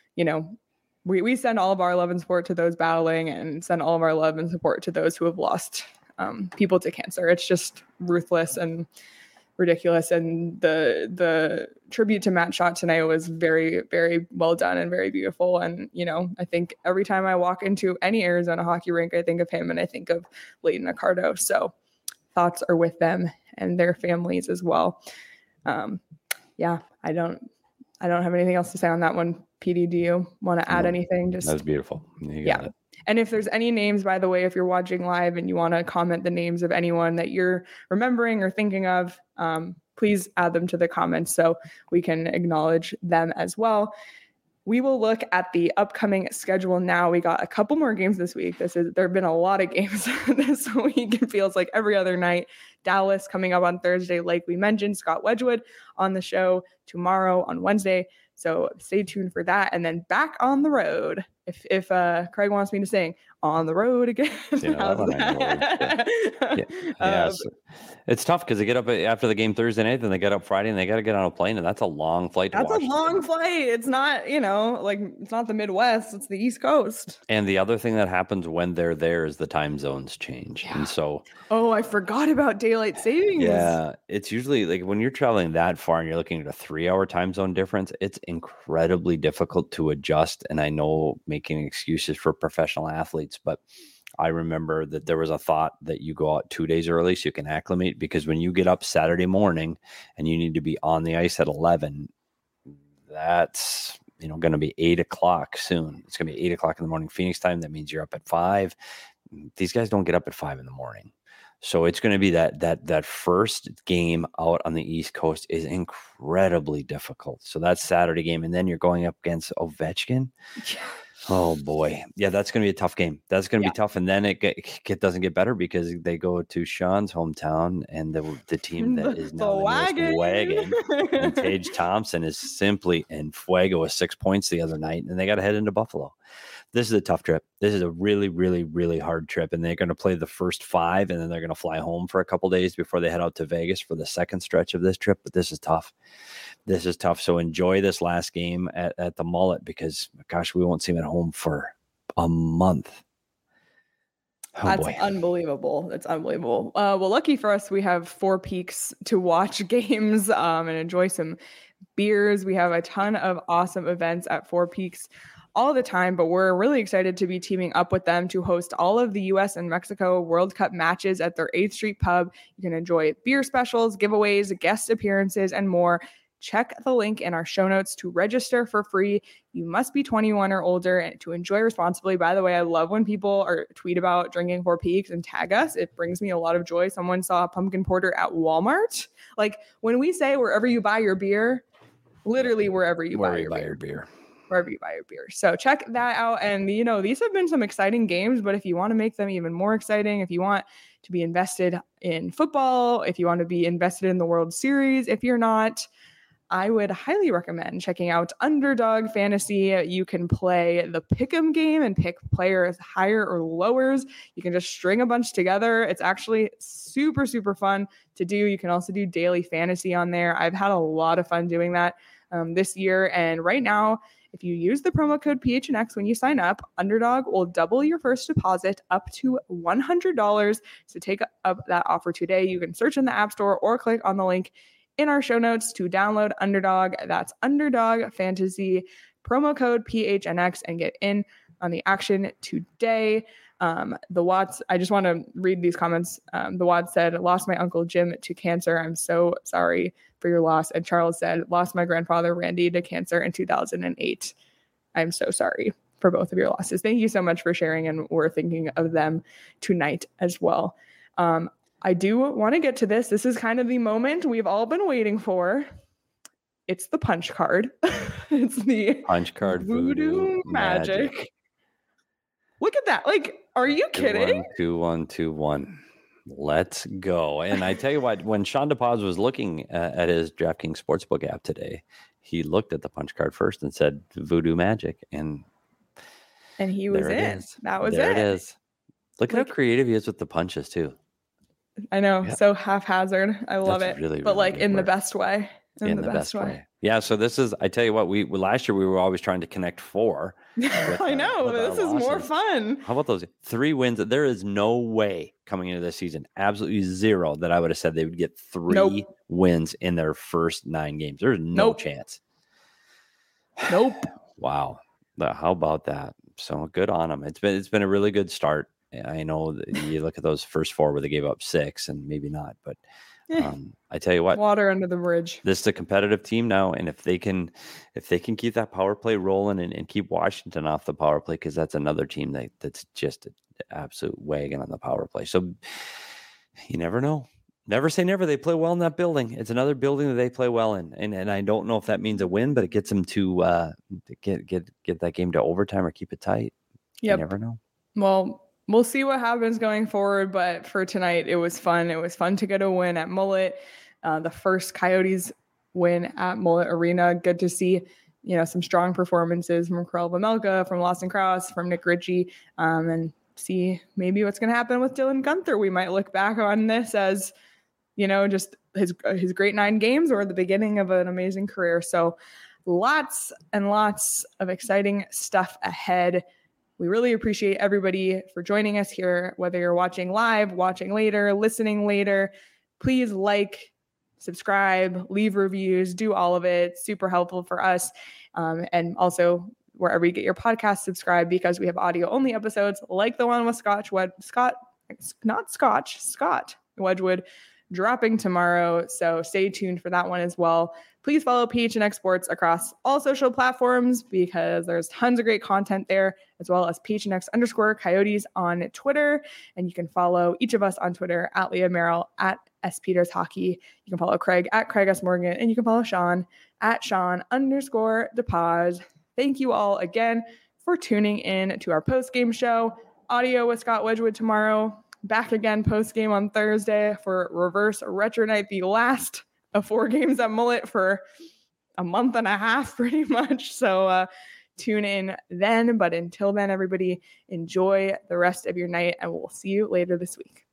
A: we send all of our love and support to those battling and send all of our love and support to those who have lost people to cancer. It's just ruthless and ridiculous. And the tribute to Matt Schott tonight was very, very well done and very beautiful. And, I think every time I walk into any Arizona hockey rink, I think of him and I think of Leighton Accardo. So thoughts are with them and their families as well. I don't have anything else to say on that one. PD, do you want to add anything? That
B: was beautiful. You got it.
A: And if there's any names, by the way, if you're watching live and you want to comment the names of anyone that you're remembering or thinking of, please add them to the comments so we can acknowledge them as well. We will look at the upcoming schedule now. We got a couple more games this week. There have been a lot of games this week. It feels like every other night. Dallas coming up on Thursday, like we mentioned. Scott Wedgwood on the show tomorrow on Wednesday. So stay tuned for that. And then back on the road. If Craig wants me to sing on the road again.
B: It's tough because they get up after the game Thursday night, then they get up Friday and they got to get on a plane, and that's a long flight.
A: That's a long flight. It's not, it's not the Midwest, it's the East Coast.
B: And the other thing that happens when they're there is the time zones change. Yeah. And so
A: I forgot about daylight savings.
B: Yeah, it's usually like when you're traveling that far and you're looking at a 3-hour time zone difference, it's incredibly difficult to adjust. And I know making excuses for professional athletes, but I remember that there was a thought that you go out 2 days early so you can acclimate, because when you get up Saturday morning and you need to be on the ice at 11, that's going to be 8 o'clock soon. It's going to be 8 o'clock in the morning Phoenix time. That means you're up at 5. These guys don't get up at 5 in the morning. So it's going to be that first game out on the East Coast is incredibly difficult. So that's Saturday game, and then you're going up against Ovechkin.
A: Yeah.
B: Oh boy, yeah, that's going to be a tough game. That's going to be tough, and then it doesn't get better because they go to Sean's hometown, and the team that is now the newest Wagon, and Tage Thompson is simply in fuego with 6 points the other night, and they got to head into Buffalo. This is a tough trip. This is a really, really, really hard trip, and they're going to play the first 5, and then they're going to fly home for a couple days before they head out to Vegas for the second stretch of this trip. But this is tough. This is tough. So enjoy this last game at the Mullet because, gosh, we won't see them at home for a month. Oh,
A: that's
B: boy.
A: unbelievable. That's unbelievable. Well, lucky for us, we have Four Peaks to watch games and enjoy some beers. We have a ton of awesome events at Four Peaks all the time, but we're really excited to be teaming up with them to host all of the US and Mexico World Cup matches at their 8th Street pub. You can enjoy beer specials, giveaways, guest appearances, and more. Check the link in our show notes to register for free. You must be 21 or older and to enjoy responsibly. By the way, I love when people tweet about drinking Four Peaks and tag us. It brings me a lot of joy. Someone saw a pumpkin porter at Walmart. Like when we say wherever you buy your beer, literally wherever you buy your beer. Wherever you buy your beer. So check that out. And, these have been some exciting games, but if you want to make them even more exciting, if you want to be invested in football, if you want to be invested in the World Series, if you're not, I would highly recommend checking out Underdog Fantasy. You can play the pick'em game and pick players higher or lowers. You can just string a bunch together. It's actually super, super fun to do. You can also do daily fantasy on there. I've had a lot of fun doing that this year. And right now, if you use the promo code PHNX when you sign up, Underdog will double your first deposit up to $100. So take up that offer today. You can search in the App Store or click on the link in our show notes to download Underdog. That's Underdog Fantasy, promo code PHNX, and get in on the action today. The Watts, I just want to read these comments. The Watts said, lost my uncle Jim to cancer. I'm so sorry for your loss. And Charles said, lost my grandfather Randy to cancer in 2008. I'm so sorry for both of your losses. Thank you so much for sharing, and we're thinking of them tonight as well. I do want to get to this. This is kind of the moment we've all been waiting for. It's the punch card. It's the
B: punch card
A: Voodoo Magic. Look at that. Like, are you kidding?
B: 2-1-2-1. Let's go. And I tell you what, when Sean DePaz was looking at his DraftKings Sportsbook app today, he looked at the punch card first and said Voodoo Magic. And
A: he was in. That was
B: there it is. Look at how creative he is with the punches, too.
A: I know. Yeah. So haphazard. I love it. Really, but like in the best way. In the best way.
B: Yeah. So this is, I tell you what, we last year we were always trying to connect 4.
A: I know. This is more fun.
B: How about those 3 wins? There is no way coming into this season, absolutely zero, that I would have said they would get 3 wins in their first 9 games. There's no chance.
A: Nope.
B: Wow. How about that? So good on them. It's been a really good start. I know that you look at those first 4 where they gave up 6 and maybe not, but I tell you what,
A: water under the bridge.
B: This is a competitive team now, and if they can keep that power play rolling and keep Washington off the power play, because that's another team that's just an absolute wagon on the power play. So you never know. Never say never. They play well in that building. It's another building that they play well in, and I don't know if that means a win, but it gets them to get that game to overtime or keep it tight.
A: Yep.
B: You never know.
A: Well, we'll see what happens going forward, but for tonight, it was fun. It was fun to get a win at Mullet, the first Coyotes win at Mullet Arena. Good to see, some strong performances from Karel Vejmelka, from Lawson Cross, from Nick Ritchie, and see maybe what's going to happen with Dylan Guenther. We might look back on this as, just his great 9 games or the beginning of an amazing career. So lots and lots of exciting stuff ahead. We really appreciate everybody for joining us here, whether you're watching live, watching later, listening later. Please subscribe, leave reviews, do all of it. Super helpful for us. And also wherever you get your podcast, subscribe, because we have audio only episodes like the one with Scott Wedgwood dropping tomorrow. So stay tuned for that one as well. Please follow PHNX Sports across all social platforms because there's tons of great content there, as well as PHNX_Coyotes on Twitter. And you can follow each of us on Twitter at Leah Merrill, at S Peters Hockey. You can follow Craig at Craig S Morgan, and you can follow Sean at Sean_DePaz. Thank you all again for tuning in to our post-game show. Audio with Scott Wedgwood tomorrow. Back again post-game on Thursday for Reverse Retro Night, the last of 4 games at Mullet for a month and a half, pretty much. So tune in then. But until then, everybody, enjoy the rest of your night, and we'll see you later this week.